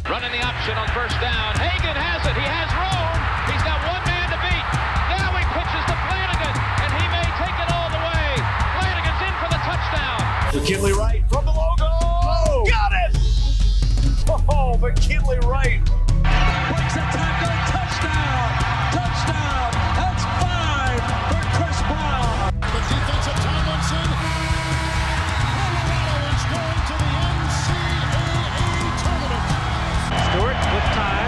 Running the option on first down. Hagan has it. He has room. He's got one man to beat. Now he pitches to Flanagan, and he may take it all the way. Flanagan's in for the touchdown. McKinley Wright from the logo. Oh, got it! Oh, McKinley Wright. Breaks a tackle. Touchdown. Touchdown. That's 5 for Chris Brown. The defensive Tomlinson. Colorado is going to the NCAA tournament. Stewart with time.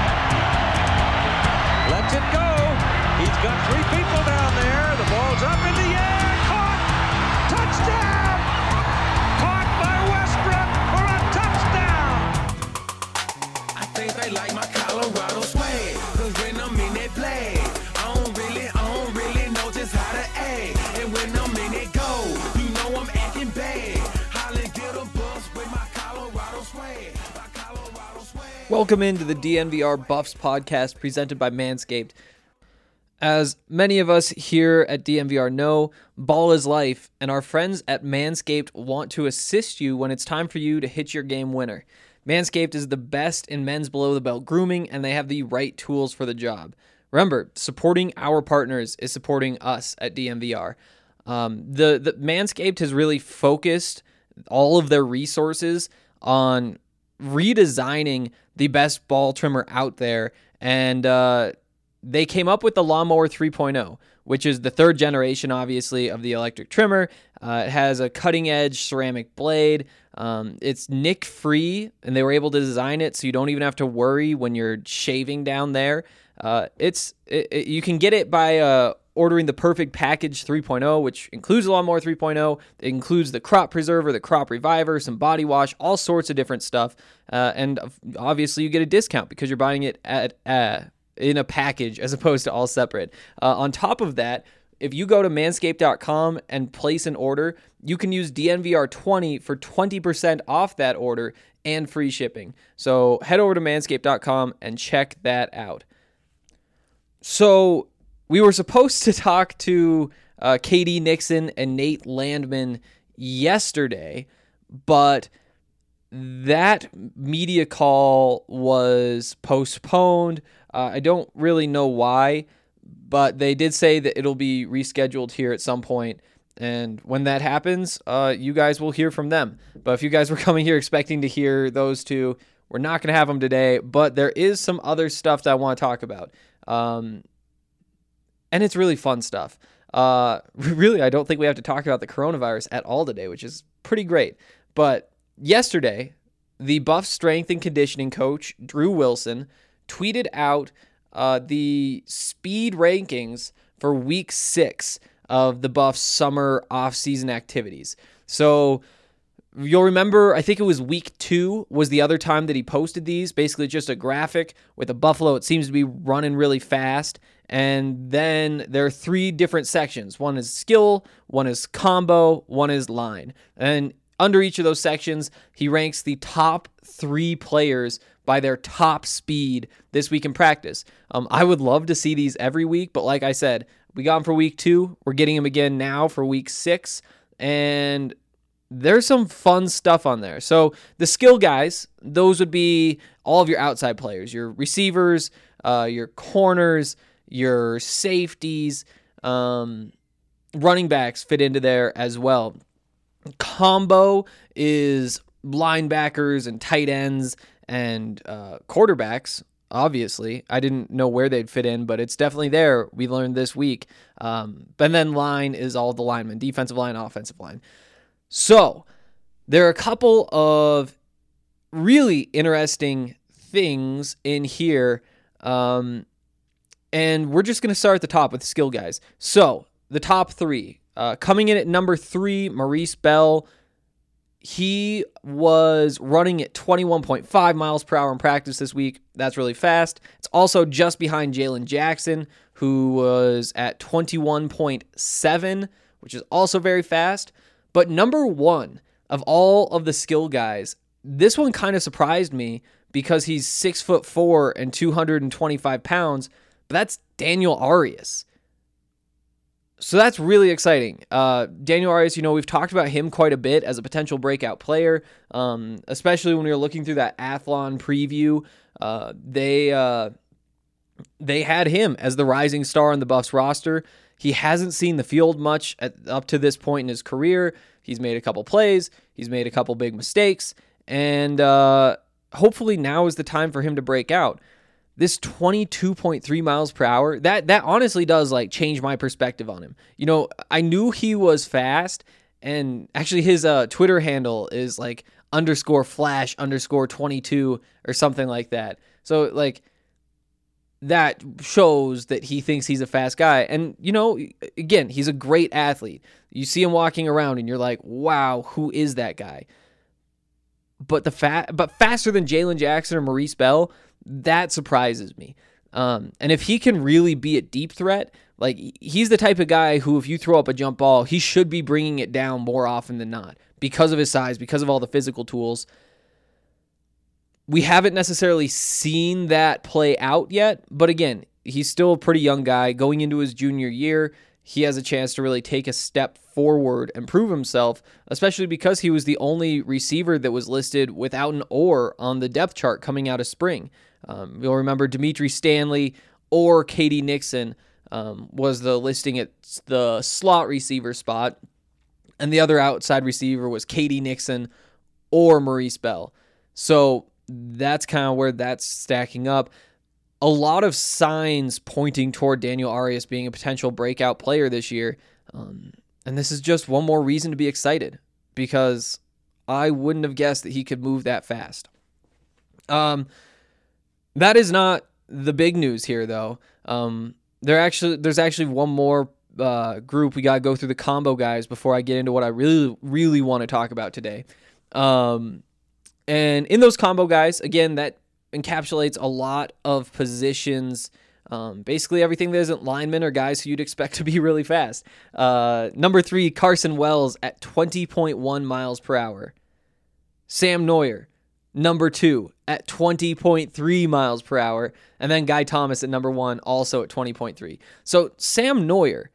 Lets it go. He's got 3 people down there. The ball's up in the air. Caught. Touchdown. Caught by Westbrook for a touchdown. I think they like my Colorado swag. Cause when I'm in that play, I don't really know just how to act. And when I'm in it go, you know I'm acting bad. Holly get a bus with my Colorado swag. My Colorado swag. Welcome into the DNVR Buffs podcast presented by Manscaped. As many of us here at DNVR know, ball is life, and our friends at Manscaped want to assist you when it's time for you to hit your game winner. Manscaped is the best in men's below-the-belt grooming, and they have the right tools for the job. Remember, supporting our partners is supporting us at DNVR. The Manscaped has really focused all of their resources on redesigning the best ball trimmer out there, and they came up with the Lawnmower 3.0, which is the third generation, obviously, of the electric trimmer. It has a cutting-edge ceramic blade. It's nick-free, and they were able to design it so you don't even have to worry when you're shaving down there. You can get it by ordering the Perfect Package 3.0, which includes the Lawnmower 3.0. It includes the Crop Preserver, the Crop Reviver, some body wash, all sorts of different stuff. And obviously, you get a discount because you're buying it in a package as opposed to all separate. On top of that, if you go to manscaped.com and place an order, you can use DNVR20 for 20% off that order and free shipping. So head over to manscaped.com and check that out. So we were supposed to talk to KD Nixon and Nate Landman yesterday, but that media call was postponed. I don't really know why, but they did say that it'll be rescheduled here at some point. And when that happens, you guys will hear from them. But if you guys were coming here expecting to hear those two, we're not going to have them today. But there is some other stuff that I want to talk about. And it's really fun stuff. Really, I don't think we have to talk about the coronavirus at all today, which is pretty great. But yesterday, the Buffs strength and conditioning coach, Drew Wilson, tweeted out the speed rankings for week 6 of the Buffs summer off-season activities. So you'll remember, I think it was week 2 was the other time that he posted these, basically just a graphic with a buffalo. It seems to be running really fast. And then there are 3 different sections. One is skill, one is combo, one is line. And under each of those sections, he ranks the top 3 players by their top speed this week in practice. I would love to see these every week, but like I said, we got them for week 2. We're getting them again now for week 6, and there's some fun stuff on there. So the skill guys, those would be all of your outside players, your receivers, your corners, your safeties, running backs fit into there as well. Combo is linebackers and tight ends and quarterbacks, obviously. I didn't know where they'd fit in, but it's definitely there. We learned this week. But then line is all the linemen, defensive line, offensive line. So there are a couple of really interesting things in here. And we're just going to start at the top with the skill guys. So the top 3. Coming in at number 3, Maurice Bell. He was running at 21.5 miles per hour in practice this week. That's really fast. It's also just behind Jalen Jackson, who was at 21.7, which is also very fast. But number 1 of all of the skill guys, this one kind of surprised me because he's 6'4" and 225 pounds, but that's Daniel Arias. So that's really exciting. Daniel Arias, we've talked about him quite a bit as a potential breakout player, especially when we were looking through that Athlon preview. They had him as the rising star on the Buffs roster. He hasn't seen the field much up to this point in his career. He's made a couple plays. He's made a couple big mistakes. And hopefully now is the time for him to break out. This 22.3 miles per hour, that honestly does change my perspective on him. I knew he was fast, and actually his Twitter handle is _flash_22 or something like that. So that shows that he thinks he's a fast guy. And, again, he's a great athlete. You see him walking around and you're like, wow, who is that guy? But faster than Jalen Jackson or Maurice Bell, that surprises me. And if he can really be a deep threat, he's the type of guy who, if you throw up a jump ball, he should be bringing it down more often than not because of his size, because of all the physical tools. We haven't necessarily seen that play out yet, but again, he's still a pretty young guy going into his junior year. He has a chance to really take a step forward and prove himself, especially because he was the only receiver that was listed without an or on the depth chart coming out of spring. You'll remember Dimitri Stanley or Katie Nixon was the listing at the slot receiver spot, and the other outside receiver was Katie Nixon or Maurice Bell. So that's kind of where that's stacking up. A lot of signs pointing toward Daniel Arias being a potential breakout player this year. And this is just one more reason to be excited, because I wouldn't have guessed that he could move that fast. That is not the big news here, though. There's actually one more group. We got to go through the combo guys before I get into what I really, really want to talk about today. And in those combo guys, again, that encapsulates a lot of positions. Basically everything that isn't linemen or guys who you'd expect to be really fast. Number 3, Carson Wells at 20.1 miles per hour. Sam Neuer, number 2, at 20.3 miles per hour. And then Guy Thomas at number 1, also at 20.3. So Sam Neuer,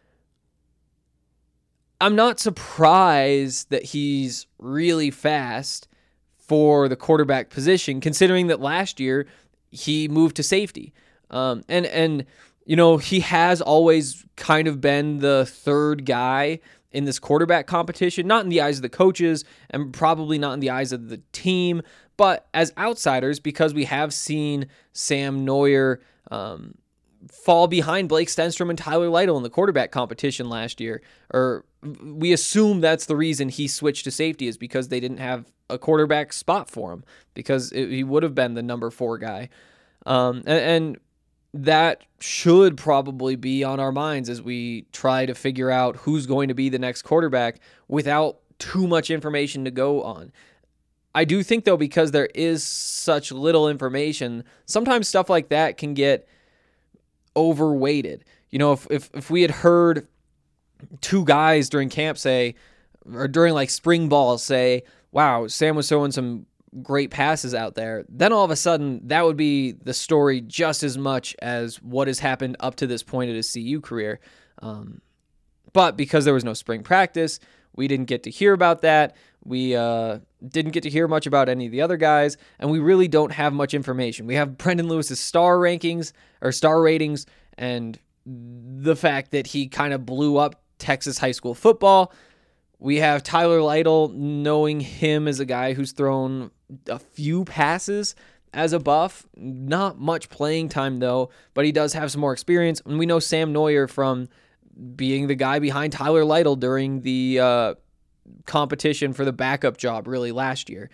I'm not surprised that he's really fast for the quarterback position, considering that last year he moved to safety. And he has always kind of been the third guy in this quarterback competition, not in the eyes of the coaches and probably not in the eyes of the team, but as outsiders, because we have seen Sam Neuer fall behind Blake Stenstrom and Tyler Lytle in the quarterback competition last year. Or we assume that's the reason he switched to safety, is because they didn't have a quarterback spot for him, because he would have been the number 4 guy. And that should probably be on our minds as we try to figure out who's going to be the next quarterback without too much information to go on. I do think, though, because there is such little information, sometimes stuff like that can get overweighted. If we had heard 2 guys during camp say, or during spring ball say, wow, Sam was throwing some great passes out there, then all of a sudden that would be the story just as much as what has happened up to this point of his CU career. But because there was no spring practice, we didn't get to hear about that. We didn't get to hear much about any of the other guys, and we really don't have much information. We have Brendan Lewis's star ratings, and the fact that he kind of blew up Texas high school football. We have Tyler Lytle, knowing him as a guy who's thrown a few passes as a Buff. Not much playing time, though, but he does have some more experience. And we know Sam Neuer from being the guy behind Tyler Lytle during the competition for the backup job, really, last year.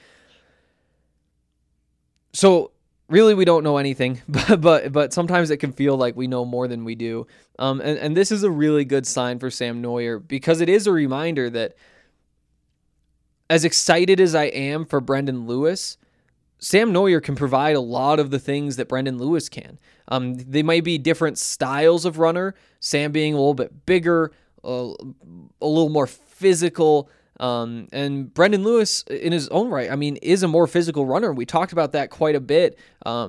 So really, we don't know anything, but sometimes it can feel like we know more than we do. And this is a really good sign for Sam Neuer, because it is a reminder that as excited as I am for Brendan Lewis, Sam Neuer can provide a lot of the things that Brendan Lewis can. They might be different styles of runner, Sam being a little bit bigger, a little more physical, and Brendan Lewis, in his own right, is a more physical runner. We talked about that quite a bit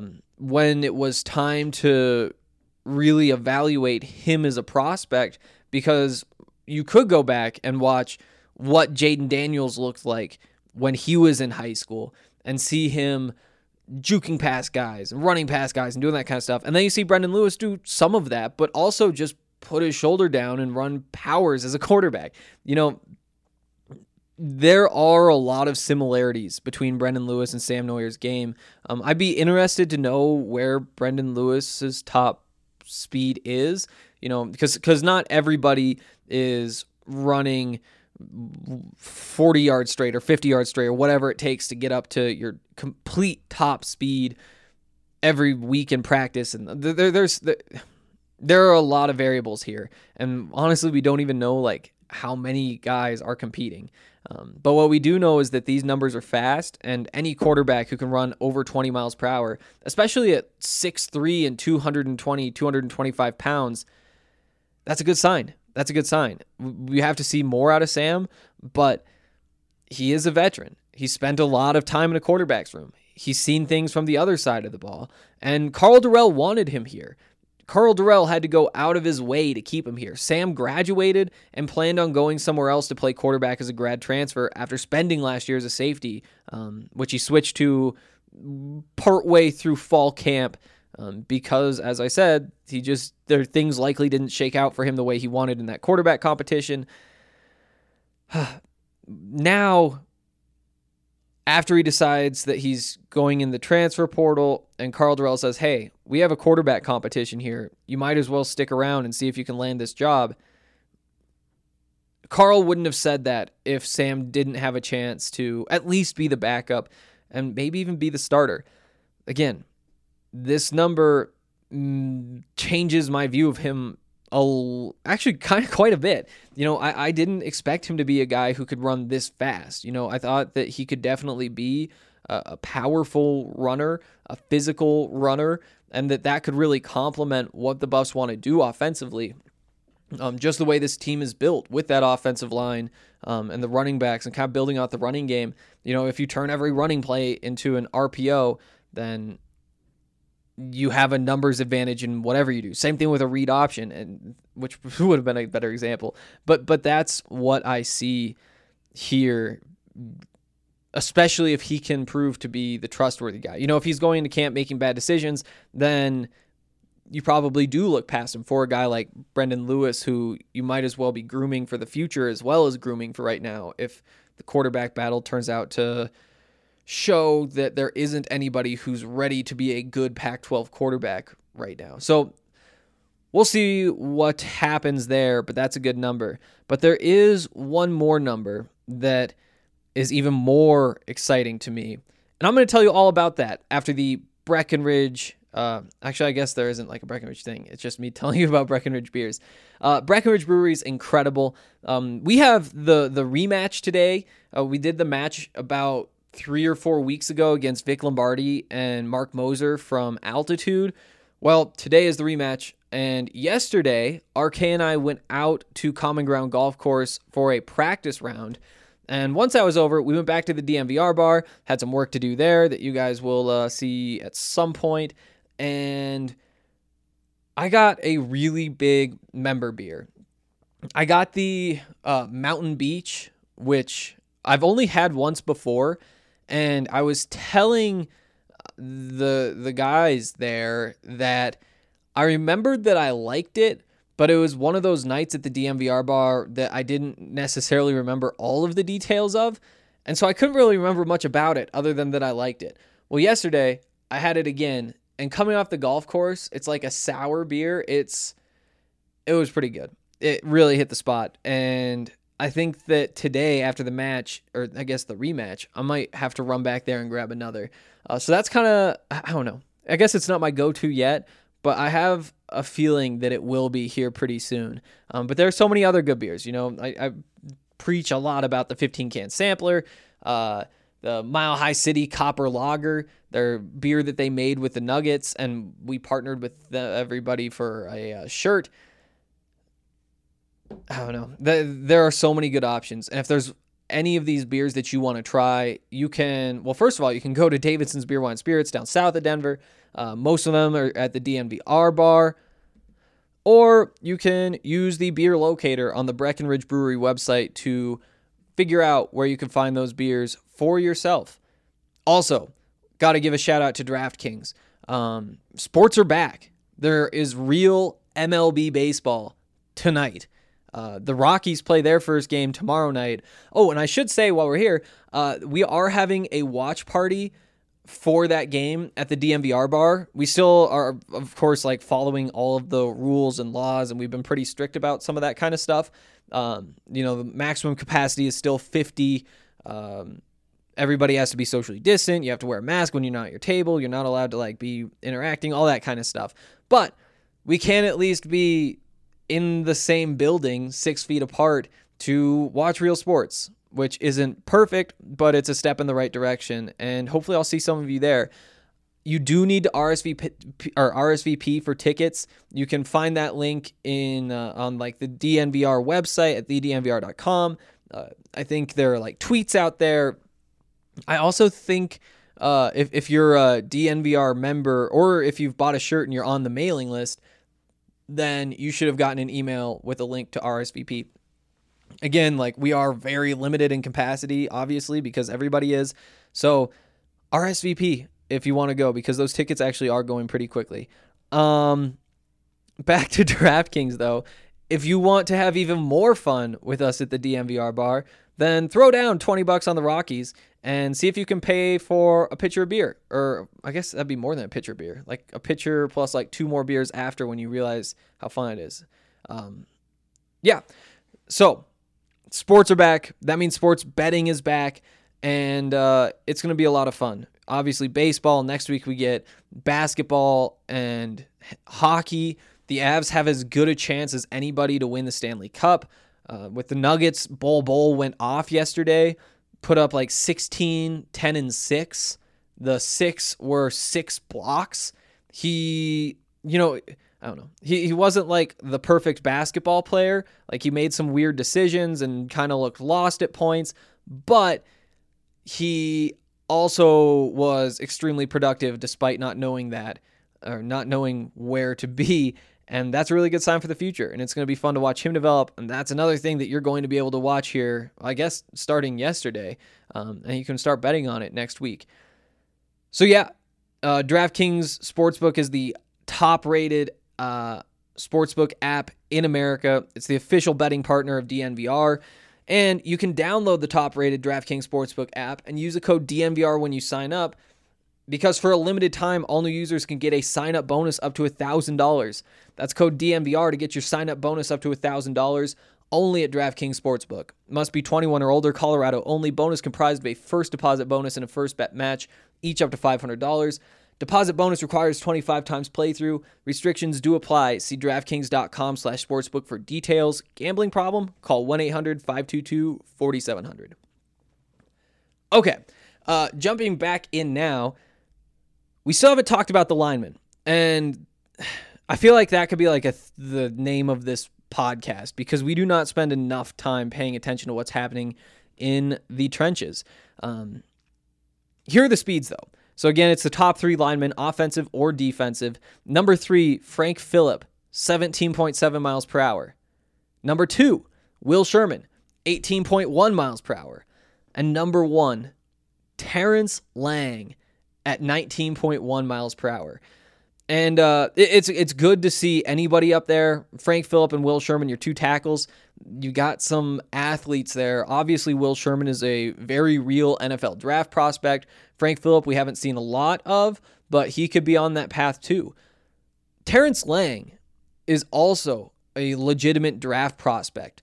when it was time to really evaluate him as a prospect because you could go back and watch what Jaden Daniels looked like when he was in high school and see him juking past guys and running past guys and doing that kind of stuff. And then you see Brendan Lewis do some of that, but also just put his shoulder down and run powers as a quarterback. You know, there are a lot of similarities between Brendan Lewis and Sam Noyer's game. I'd be interested to know where Brendan Lewis's top speed is, you know, because not everybody is running 40 yards straight or 50 yards straight or whatever it takes to get up to your complete top speed every week in practice. And there are a lot of variables here. And honestly, we don't even know like how many guys are competing. But what we do know is that these numbers are fast, and any quarterback who can run over 20 miles per hour, especially at 6'3" and 220, 225 pounds, that's a good sign. That's a good sign. We have to see more out of Sam, but he is a veteran. He spent a lot of time in a quarterback's room. He's seen things from the other side of the ball, and Karl Dorrell wanted him here. Karl Dorrell had to go out of his way to keep him here. Sam graduated and planned on going somewhere else to play quarterback as a grad transfer after spending last year as a safety, which he switched to partway through fall camp because, as I said, things likely didn't shake out for him the way he wanted in that quarterback competition. Now, after he decides that he's going in the transfer portal and Karl Dorrell says, hey, we have a quarterback competition here. You might as well stick around and see if you can land this job. Karl wouldn't have said that if Sam didn't have a chance to at least be the backup and maybe even be the starter. Again, this number changes my view of him actually kind of quite a bit. You know, I didn't expect him to be a guy who could run this fast. You know, I thought that he could definitely be a powerful runner, a physical runner, and that could really complement what the Buffs want to do offensively. Just the way this team is built with that offensive line and the running backs and kind of building out the running game. You know, if you turn every running play into an RPO, then you have a numbers advantage in whatever you do. Same thing with a read option, and which would have been a better example. But that's what I see here, especially if he can prove to be the trustworthy guy. You know, if he's going into camp making bad decisions, then you probably do look past him for a guy like Brendan Lewis, who you might as well be grooming for the future as well as grooming for right now if the quarterback battle turns out to show that there isn't anybody who's ready to be a good Pac-12 quarterback right now. So we'll see what happens there, but that's a good number. But there is one more number that is even more exciting to me. And I'm going to tell you all about that after the Breckenridge. Actually, I guess there isn't like a Breckenridge thing. It's just me telling you about Breckenridge beers. Breckenridge Brewery is incredible. We have the rematch today. We did the match about 3 or 4 weeks ago against Vic Lombardi and Mark Moser from Altitude. Well, today is the rematch, and yesterday, RK and I went out to Common Ground Golf Course for a practice round, and once that was over, we went back to the DMVR bar, had some work to do there that you guys will see at some point, and I got a really big member beer. I got the Mountain Beach, which I've only had once before, and I was telling the guys there that I remembered that I liked it, but it was one of those nights at the DMVR bar that I didn't necessarily remember all of the details of, and so I couldn't really remember much about it other than that I liked it. Well, yesterday, I had it again, and coming off the golf course, it's like a sour beer. It was pretty good. It really hit the spot, and I think that today, after the match, or I guess the rematch, I might have to run back there and grab another. So that's kind of, I don't know. I guess it's not my go-to yet, but I have a feeling that it will be here pretty soon. But there are so many other good beers. You know, I preach a lot about the 15-can sampler, the Mile High City Copper Lager, their beer that they made with the Nuggets, and we partnered with everybody for a shirt. I don't know. There are so many good options. And if there's any of these beers that you want to try, you can, well, first of all, you can go to Davidson's Beer, Wine, Spirits down south of Denver. Most of them are at the DMVR bar. or you can use the beer locator on the Breckenridge Brewery website to figure out where you can find those beers for yourself. Also, got to give a shout out to DraftKings. Sports are back. There is real MLB baseball tonight. The Rockies play their first game tomorrow night. Oh, and I should say while we're here, we are having a watch party for that game at the DNVR bar. We still are, of course, like following all of the rules and laws, and we've been pretty strict about some of that kind of stuff. The maximum capacity is still 50. Everybody has to be socially distant. You have to wear a mask when you're not at your table. You're not allowed to like be interacting, all that kind of stuff. But we can at least be in the same building 6 feet apart to watch real sports, which isn't perfect, but it's a step in the right direction. And hopefully I'll see some of you there. You do need to RSVP for tickets. You can find that link on like the DNVR website at thednvr.com. I think there are like tweets out there. I also think if you're a DNVR member, or if you've bought a shirt and you're on the mailing list, then you should have gotten an email with a link to RSVP. Again, like we are very limited in capacity, obviously, because everybody is. So RSVP if you want to go, because those tickets actually are going pretty quickly. Back to DraftKings, though. If you want to have even more fun with us at the DNVR bar, then throw down $20 on the Rockies and see if you can pay for a pitcher of beer. Or I guess that'd be more than a pitcher of beer. Like a pitcher plus like 2 more beers after, when you realize how fun it is. Yeah. So sports are back. That means sports betting is back. And it's going to be a lot of fun. Obviously, baseball. Next week we get basketball and hockey. The Avs have as good a chance as anybody to win the Stanley Cup. With the Nuggets, Bol went off yesterday, put up like 16, 10, and 6. The 6 were 6 blocks. I don't know. He wasn't like the perfect basketball player. Like he made some weird decisions and kind of looked lost at points, but he also was extremely productive despite not knowing that, or not knowing where to be. And that's a really good sign for the future. And it's going to be fun to watch him develop. And that's another thing that you're going to be able to watch here, I guess, starting yesterday. And you can start betting on it next week. So yeah, DraftKings Sportsbook is the top-rated sportsbook app in America. It's the official betting partner of DNVR. And you can download the top-rated DraftKings Sportsbook app and use the code DNVR when you sign up, because for a limited time, all new users can get a sign-up bonus up to $1,000. That's code DNVR to get your sign-up bonus up to $1,000 only at DraftKings Sportsbook. Must be 21 or older, Colorado only. Bonus comprised of a first deposit bonus and a first bet match, each up to $500. Deposit bonus requires 25 times playthrough. Restrictions do apply. See DraftKings.com/sportsbook for details. Gambling problem? Call 1-800-522-4700. Okay, jumping back in now. We still haven't talked about the linemen, and I feel like that could be like the name of this podcast, because we do not spend enough time paying attention to what's happening in the trenches. Here are the speeds, though. So again, it's the top 3 linemen, offensive or defensive. Number 3, Frank Phillip, 17.7 miles per hour. Number 2, Will Sherman, 18.1 miles per hour. And number 1, Terrence Lang at 19.1 miles per hour. And it's good to see anybody up there. Frank Phillip and Will Sherman, your 2 tackles. You got some athletes there. Obviously, Will Sherman is a very real NFL draft prospect. Frank Phillip, we haven't seen a lot of, but he could be on that path too. Terrence Lang is also a legitimate draft prospect,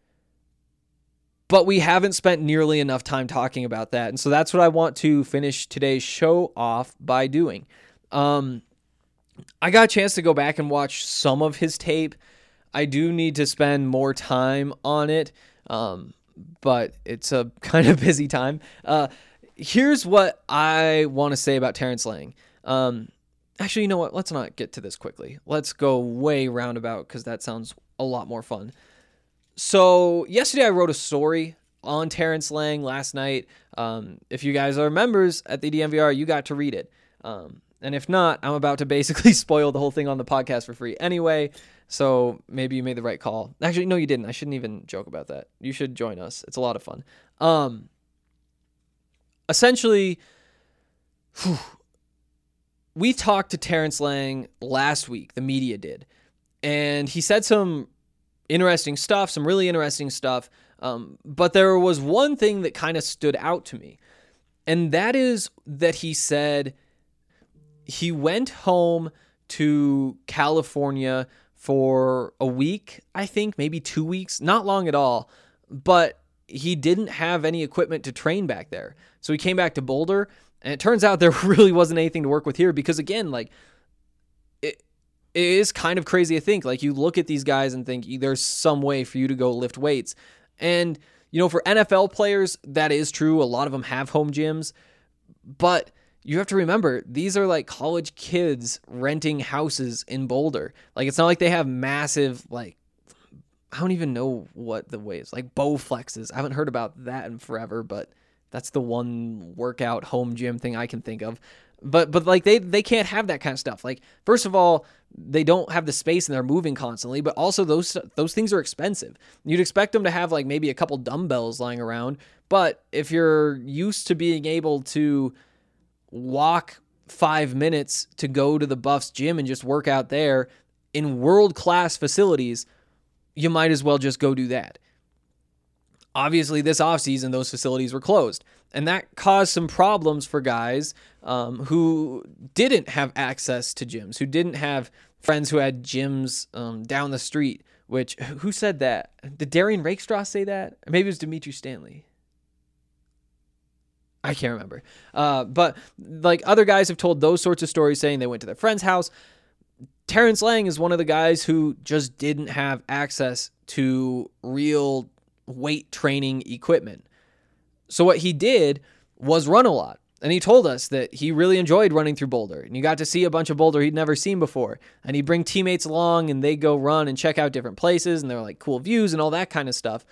but we haven't spent nearly enough time talking about that. And so that's what I want to finish today's show off by doing. I got a chance to go back and watch some of his tape. I do need to spend more time on it, but it's a kind of busy time. Here's what I want to say about Terrence Lang. Actually, you know what? Let's not get to this quickly. Let's go way roundabout, because that sounds a lot more fun. So yesterday I wrote a story on Terrence Lang last night. If you guys are members at the DNVR, you got to read it. And if not, I'm about to basically spoil the whole thing on the podcast for free anyway. So maybe you made the right call. Actually, no, you didn't. I shouldn't even joke about that. You should join us. It's a lot of fun. Essentially, we talked to Terrence Lang last week. The media did. And he said some interesting stuff, some really interesting stuff. But there was one thing that kind of stood out to me. And that is that he said he went home to California for a week, I think, maybe 2 weeks, not long at all, but he didn't have any equipment to train back there. So he came back to Boulder, and it turns out there really wasn't anything to work with here because, again, like, it is kind of crazy to think. Like, you look at these guys and think there's some way for you to go lift weights. And, you know, for NFL players, that is true. A lot of them have home gyms, but you have to remember, these are like college kids renting houses in Boulder. Like, it's not like they have massive, like, I don't even know what the way is, like Bowflexes. I haven't heard about that in forever, but that's the one workout home gym thing I can think of. But like they can't have that kind of stuff. Like, first of all, they don't have the space and they're moving constantly, but also those things are expensive. You'd expect them to have like maybe a couple dumbbells lying around, but if you're used to being able to walk 5 minutes to go to the Buffs gym and just work out there in world-class facilities, you might as well just go do that. Obviously, this offseason, those facilities were closed, and that caused some problems for guys who didn't have access to gyms, who didn't have friends who had gyms down the street, which, who said that? Did Darian Rakestraw say that? Or maybe it was Dimitri Stanley. I can't remember. But like other guys have told those sorts of stories saying they went to their friend's house. Terrence Lang is one of the guys who just didn't have access to real weight training equipment. So what he did was run a lot. And he told us that he really enjoyed running through Boulder. And you got to see a bunch of Boulder he'd never seen before. And he'd bring teammates along and they go run and check out different places. And they're like cool views and all that kind of stuff.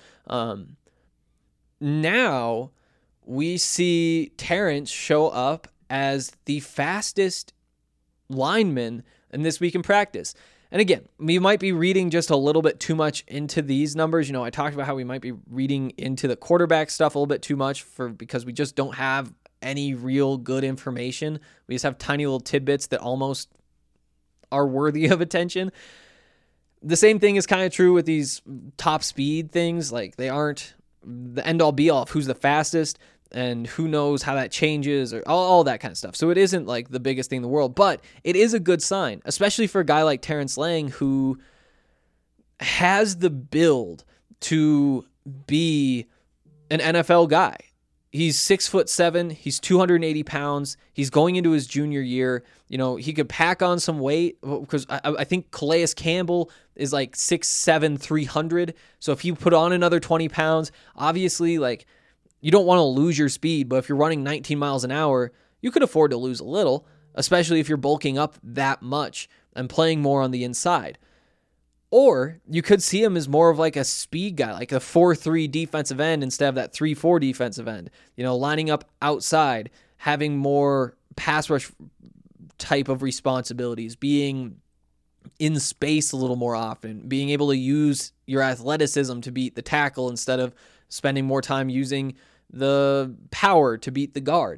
Now we see Terrence show up as the fastest lineman in this week in practice. And again, we might be reading just a little bit too much into these numbers. You know, I talked about how we might be reading into the quarterback stuff a little bit too much because we just don't have any real good information. We just have tiny little tidbits that almost are worthy of attention. The same thing is kind of true with these top speed things. Like, they aren't the end all be all of who's the fastest and who knows how that changes or all that kind of stuff. So it isn't like the biggest thing in the world, but it is a good sign, especially for a guy like Terrence Lang who has the build to be an NFL guy. He's 6'7", he's 280 pounds. He's going into his junior year. You know, he could pack on some weight because I think Calais Campbell is like 6'7", 300. So if you put on another 20 pounds, obviously, like, you don't want to lose your speed, but if you're running 19 miles an hour, you could afford to lose a little, especially if you're bulking up that much and playing more on the inside. Or you could see him as more of like a speed guy, like a 4-3 defensive end instead of that 3-4 defensive end. You know, lining up outside, having more pass rush type of responsibilities, being in space a little more often, being able to use your athleticism to beat the tackle instead of spending more time using the power to beat the guard.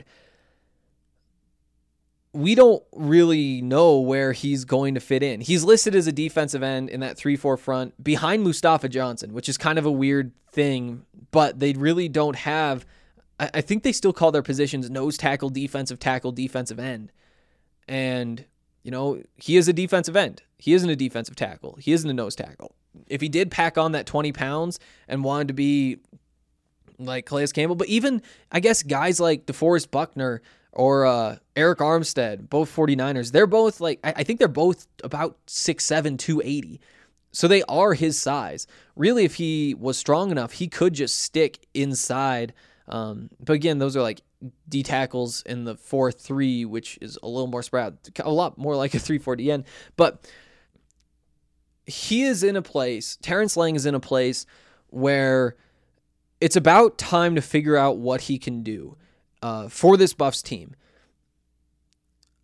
We don't really know where he's going to fit in. He's listed as a defensive end in that 3-4 front behind Mustafa Johnson, which is kind of a weird thing, but they really don't have, I think they still call their positions nose tackle, defensive end. And, you know, he is a defensive end. He isn't a defensive tackle. He isn't a nose tackle. If he did pack on that 20 pounds and wanted to be like Calais Campbell, but even, I guess, guys like DeForest Buckner or Eric Armstead, both 49ers, they're both like, I think they're both about 6'7", 280. So they are his size. Really, if he was strong enough, he could just stick inside. But again, those are like D tackles in the 4-3, which is a little more spread, a lot more like a 3-4 D end. But he is in a place, Terrence Lang is in a place where it's about time to figure out what he can do for this Buffs team.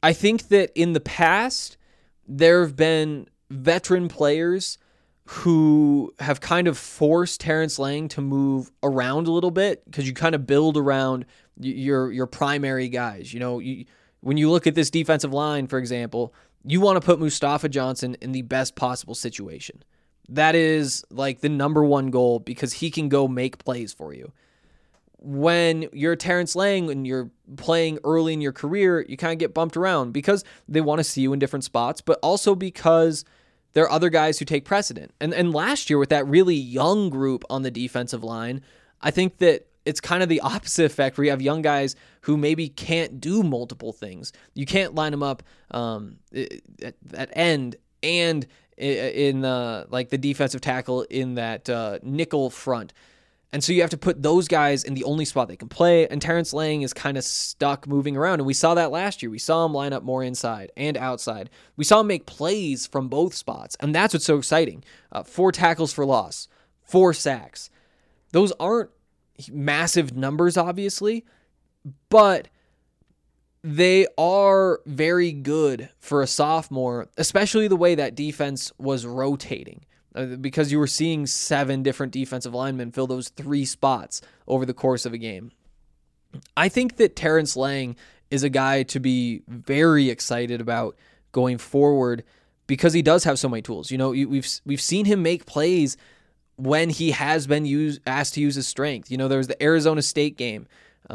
I think that in the past, there have been veteran players who have kind of forced Terrence Lang to move around a little bit because you kind of build around your primary guys. When you look at this defensive line, for example, you want to put Mustafa Johnson in the best possible situation. That is like the number one goal because he can go make plays for you. When you're Terrence Lang and you're playing early in your career, you kind of get bumped around because they want to see you in different spots, but also because there are other guys who take precedent. And last year with that really young group on the defensive line, I think that it's kind of the opposite effect where you have young guys who maybe can't do multiple things. You can't line them up at end and in the defensive tackle in that nickel front. And so you have to put those guys in the only spot they can play, and Terrence Lang is kind of stuck moving around. And we saw that last year. We saw him line up more inside and outside. We saw him make plays from both spots, and that's what's so exciting. 4 tackles for loss, 4 sacks. Those aren't massive numbers, obviously, but they are very good for a sophomore, especially the way that defense was rotating. Because you were seeing 7 different defensive linemen fill those 3 spots over the course of a game. I think that Terrence Lang is a guy to be very excited about going forward because he does have so many tools. We've seen him make plays when he has been asked to use his strength. There was the Arizona State game.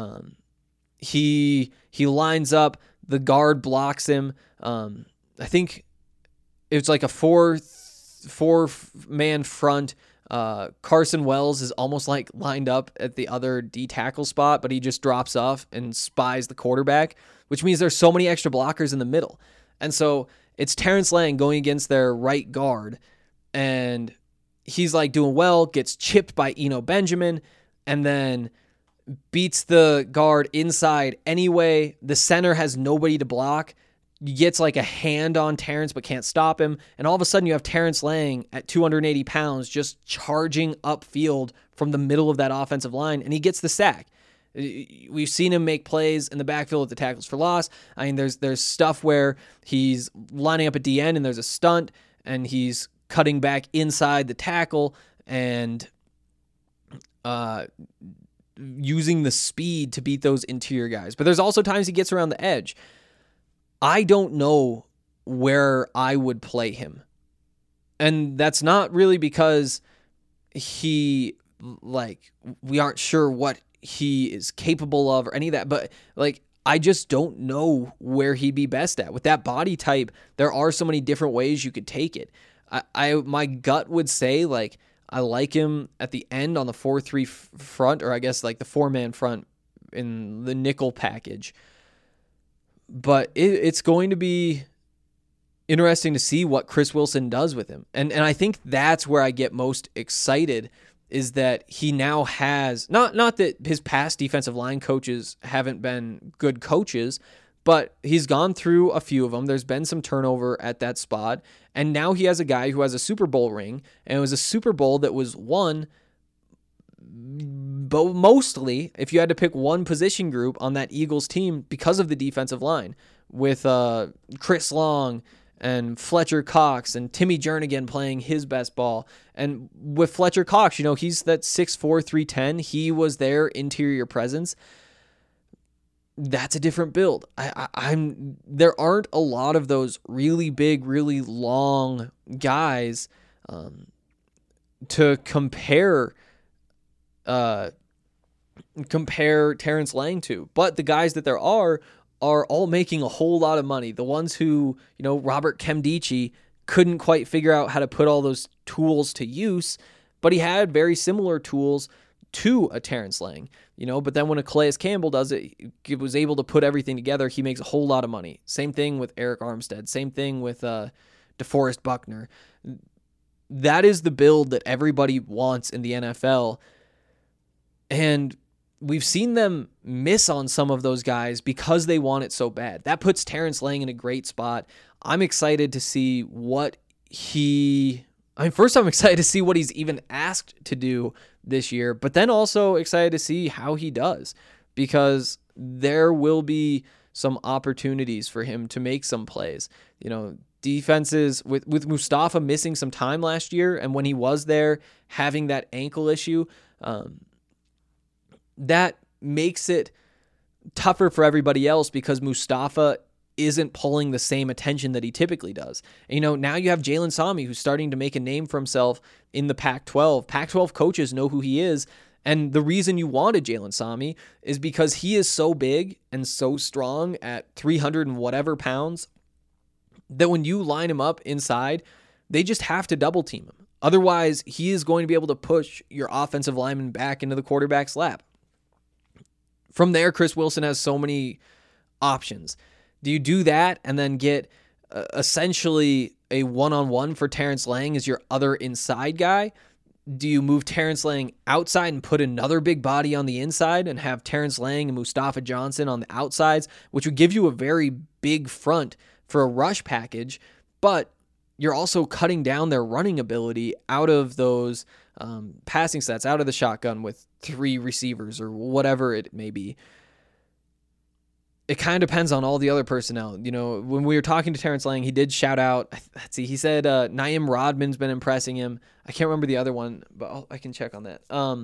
He lines up, the guard blocks him. I think it's like a 4-man front. Carson Wells is almost like lined up at the other D tackle spot, but he just drops off and spies the quarterback, which means there's so many extra blockers in the middle. And so it's Terrence Lang going against their right guard, and he's like doing well, gets chipped by Eno Benjamin, and then beats the guard inside anyway. The center has nobody to block. He gets like a hand on Terrence but can't stop him. And all of a sudden you have Terrence Lang at 280 pounds just charging upfield from the middle of that offensive line, and he gets the sack. We've seen him make plays in the backfield with the tackles for loss. I mean, there's stuff where he's lining up at DN and there's a stunt and he's cutting back inside the tackle and using the speed to beat those interior guys. But there's also times he gets around the edge. I don't know where I would play him. And that's not really because we aren't sure what he is capable of or any of that, but I just don't know where he'd be best at. With that body type, there are so many different ways you could take it. My gut would say I like him at the end on the 4-3 front, or I guess the 4-man front in the nickel package. But it's going to be interesting to see what Chris Wilson does with him. And I think that's where I get most excited, is that he now has, not that his past defensive line coaches haven't been good coaches, but he's gone through a few of them. There's been some turnover at that spot. And now he has a guy who has a Super Bowl ring, and it was a Super Bowl that was won but mostly, if you had to pick one position group on that Eagles team, because of the defensive line, with Chris Long and Fletcher Cox and Timmy Jernigan playing his best ball. And with Fletcher Cox, he's that 6'4", 310. He was their interior presence. That's a different build. There aren't a lot of those really big, really long guys to compare Terrence Lang to. But the guys that there are all making a whole lot of money. The ones who, Robert Nkemdiche couldn't quite figure out how to put all those tools to use, but he had very similar tools to a Terrence Lang, but then when a Calais Campbell does it, he was able to put everything together. He makes a whole lot of money. Same thing with Eric Armstead. Same thing with DeForest Buckner. That is the build that everybody wants in the NFL. And we've seen them miss on some of those guys because they want it so bad. That puts Terrence Lang in a great spot. I'm excited to see first I'm excited to see what he's even asked to do this year, but then also excited to see how he does, because there will be some opportunities for him to make some plays. Defenses with Mustafa missing some time last year, and when he was there having that ankle issue, that makes it tougher for everybody else because Mustafa isn't pulling the same attention that he typically does. And, now you have Jalen Sami, who's starting to make a name for himself in the Pac-12. Pac-12 coaches know who he is, and the reason you wanted Jalen Sami is because he is so big and so strong at 300 and whatever pounds that when you line him up inside, they just have to double team him. Otherwise, he is going to be able to push your offensive lineman back into the quarterback's lap. From there, Chris Wilson has so many options. Do you do that and then get essentially a one-on-one for Terrence Lang as your other inside guy? Do you move Terrence Lang outside and put another big body on the inside and have Terrence Lang and Mustafa Johnson on the outsides, which would give you a very big front for a rush package, but you're also cutting down their running ability out of those passing sets, out of the shotgun with 3 receivers or whatever it may be. It kind of depends on all the other personnel. When we were talking to Terrence Lang, he did shout out, he said Naeem Rodman's been impressing him. I can't remember the other one, but I can check on that.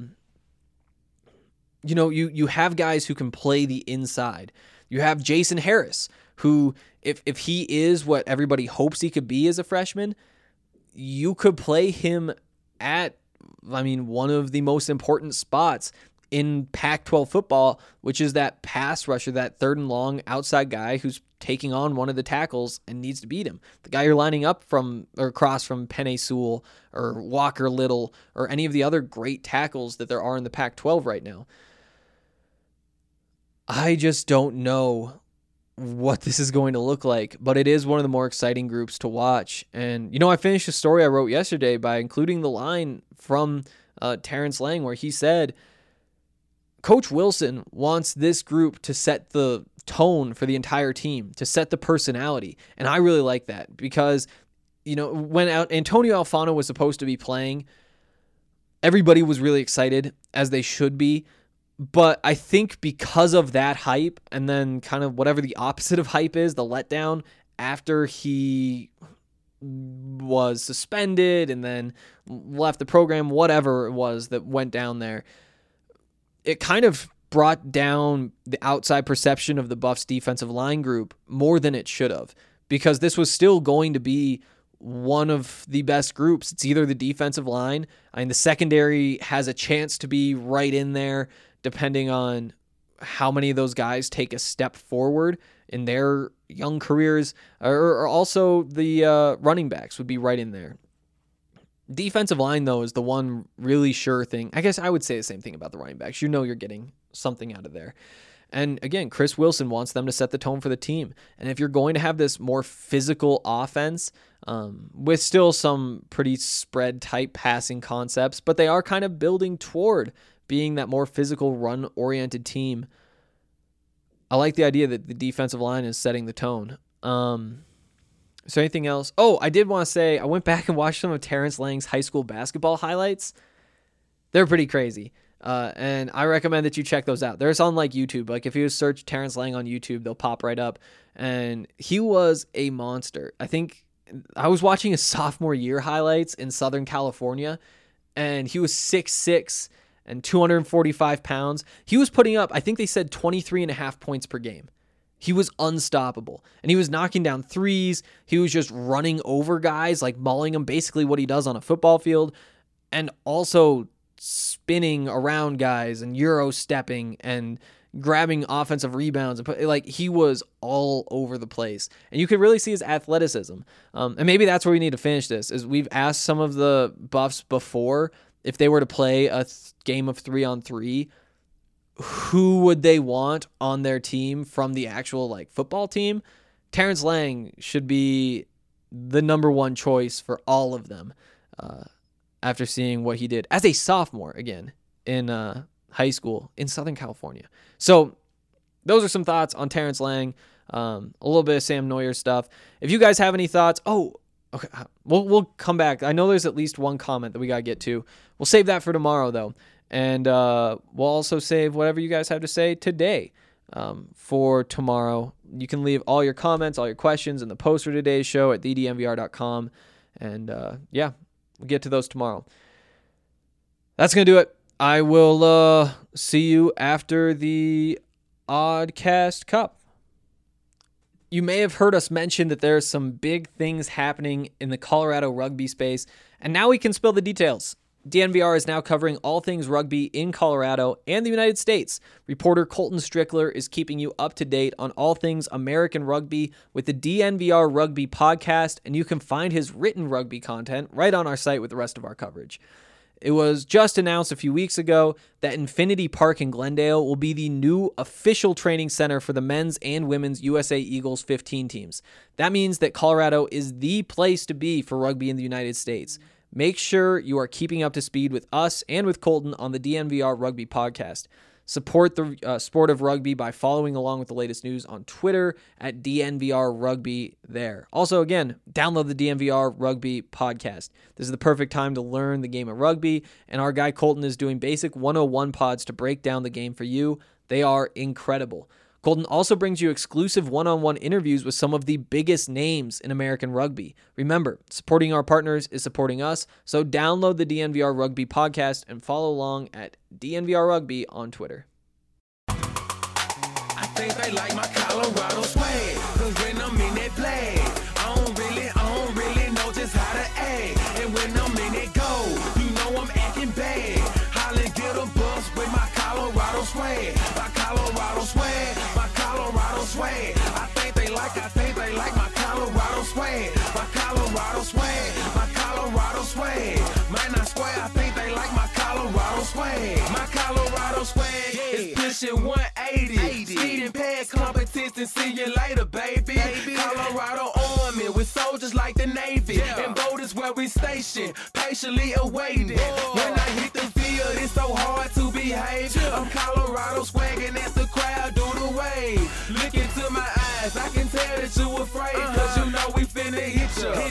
You have guys who can play the inside. You have Jason Harris, who, if he is what everybody hopes he could be as a freshman, you could play him at, one of the most important spots in Pac-12 football, which is that pass rusher, that third and long outside guy who's taking on one of the tackles and needs to beat him. The guy you're lining up from or across from Penei Sewell or Walker Little or any of the other great tackles that there are in the Pac-12 right now. I just don't know what this is going to look like, but it is one of the more exciting groups to watch. And, I finished a story I wrote yesterday by including the line from Terrence Lang where he said, Coach Wilson wants this group to set the tone for the entire team, to set the personality. And I really like that because, when Antonio Alfano was supposed to be playing, everybody was really excited, as they should be. But I think because of that hype and then kind of whatever the opposite of hype is, the letdown after he was suspended and then left the program, whatever it was that went down there, it kind of brought down the outside perception of the Buffs defensive line group more than it should have, because this was still going to be one of the best groups. It's either the defensive line. The secondary has a chance to be right in there, depending on how many of those guys take a step forward in their young careers, or also the running backs would be right in there. Defensive line, though, is the one really sure thing. I guess I would say the same thing about the running backs. You're getting something out of there. And again, Chris Wilson wants them to set the tone for the team. And if you're going to have this more physical offense, with still some pretty spread type passing concepts, but they are kind of building toward being that more physical run-oriented team, I like the idea that the defensive line is setting the tone. Is there anything else? Oh, I did want to say, I went back and watched some of Terrence Lang's high school basketball highlights. They're pretty crazy. And I recommend that you check those out. They're on YouTube. If you search Terrence Lang on YouTube, they'll pop right up. And he was a monster. I think I was watching his sophomore year highlights in Southern California, and he was 6'6" and 245 pounds. He was putting up, I think they said 23.5 points per game. He was unstoppable, and he was knocking down threes. He was just running over guys, mauling them, basically what he does on a football field, and also spinning around guys and Euro stepping and grabbing offensive rebounds. And he was all over the place, and you could really see his athleticism. And maybe that's where we need to finish this, is we've asked some of the Buffs before, if they were to play a game of 3-on-3, who would they want on their team from the actual football team? Terrence Lang should be the number one choice for all of them, after seeing what he did as a sophomore again in high school in Southern California. So those are some thoughts on Terrence Lang, a little bit of Sam Neuer stuff. If you guys have any thoughts, okay, we'll come back. I know there's at least one comment that we got to get to. We'll save that for tomorrow, though. And we'll also save whatever you guys have to say today. for tomorrow. You can leave all your comments, all your questions in the post for today's show at thednvr.com. And we'll get to those tomorrow. That's going to do it. I will see you after the Oddcast Cup. You may have heard us mention that there are some big things happening in the Colorado rugby space, and now we can spill the details. DNVR is now covering all things rugby in Colorado and the United States. Reporter Colton Strickler is keeping you up to date on all things American rugby with the DNVR Rugby podcast, and you can find his written rugby content right on our site with the rest of our coverage. It was just announced a few weeks ago that Infinity Park in Glendale will be the new official training center for the men's and women's USA Eagles 15 teams. That means that Colorado is the place to be for rugby in the United States. Make sure you are keeping up to speed with us and with Colton on the DNVR Rugby podcast. Support the sport of rugby by following along with the latest news on Twitter at DNVR Rugby there. Also, again, download the DNVR Rugby podcast. This is the perfect time to learn the game of rugby, and our guy Colton is doing basic 101 pods to break down the game for you. They are incredible. Colton also brings you exclusive one-on-one interviews with some of the biggest names in American rugby. Remember, supporting our partners is supporting us, so download the DNVR Rugby podcast and follow along at DNVR Rugby on Twitter. I think they like my Colorado swag, 'cause when I'm in that play, I don't really know just how to act. And when I'm in that go, you know I'm acting bad. Holla, get a bus with my Colorado swag. My Colorado swag, my Colorado swag. I think they like my Colorado swag. My Colorado swag, my Colorado swag. Man, I swear, I think they like my Colorado swag. My Colorado swag is pushing 180. Speed and pad competition, see you later, baby. Colorado Army with soldiers like the Navy. And boat is where we station, patiently awaiting. When I hit the field, it's so hard to behave. I'm Colorado swagging as the crowd do the wave. Look into my eyes, I can tell that you afraid. 'Cause you know we finna hit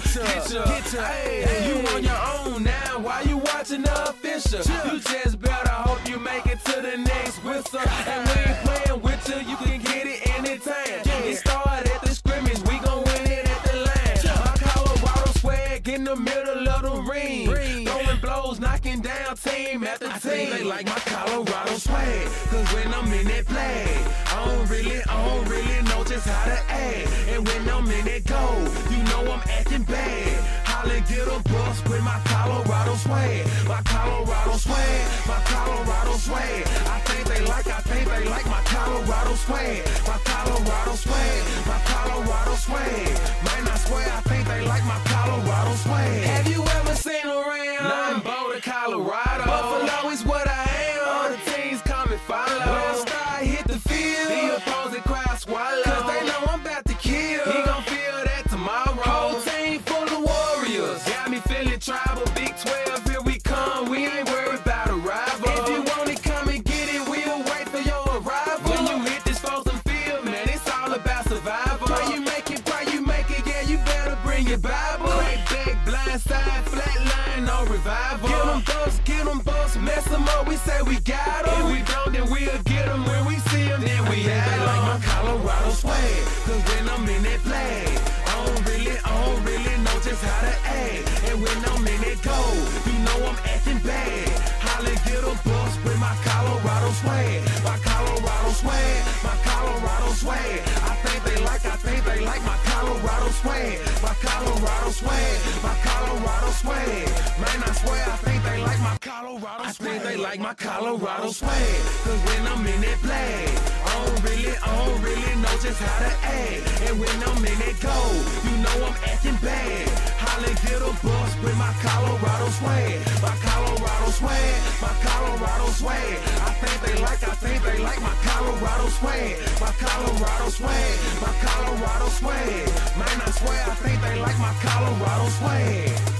ya. Hey, you on your own now, why you watching the official? You just better hope you make it to the next whistle. And we ain't playing with you can get it anytime. It started at the scrimmage, we gon' win it at the line. My Colorado swag in the middle of the ring. Throwing blows, knocking down team after team. I think they like my Colorado swag, 'cause when I'm in that play, I don't really know just how to act. And when I'm in that go, you know I'm acting bad. Holla, get a bus with my Colorado swag. My Colorado swag, my Colorado swag. I think they like my Colorado swag. My Colorado swag, my Colorado swag. Man, I swear, I think they like my Colorado swag. Have you ever seen around? Nah, I'm Boulder, Colorado. Buffalo is what I am. All the teams come and follow. When I start hit the field, the opposing crowd swallow. 'Cause they know I'm about to kill. He gon' feel that tomorrow. Whole team full of warriors. Got me feeling tribal. Big 12, here we come. We ain't worried about a rival. If you want it, come and get it. We'll wait for your arrival. When you hit this frozen field, man, it's all about survival. Pray you make it, yeah, you better bring your Bible. Crack back, blind side, flat line, no revival. Get them bucks, mess them up, we say we got them. If we don't, then we'll get them. When we see them, then we have them. They like my Colorado swag, 'cause when I'm in that flag, I don't really know just how to act. And when I'm in that go, you know I'm acting bad. Holla, get a bus with my Colorado swag. My Colorado swag, my Colorado swag. I think they like my Colorado swag. My Colorado swag, my Colorado swag. Man, I swear, I think they like my Colorado swag. I think they like my Colorado swag, 'cause when I'm in that flag, I don't really know just how to act. And when I'm in that go, you know I'm acting bad. Holla, get a bus with my Colorado swag. My Colorado swag, my Colorado swag. I think they like my Colorado swag. My Colorado swag, my Colorado swag. Man, I swear, I think they like my Colorado swag.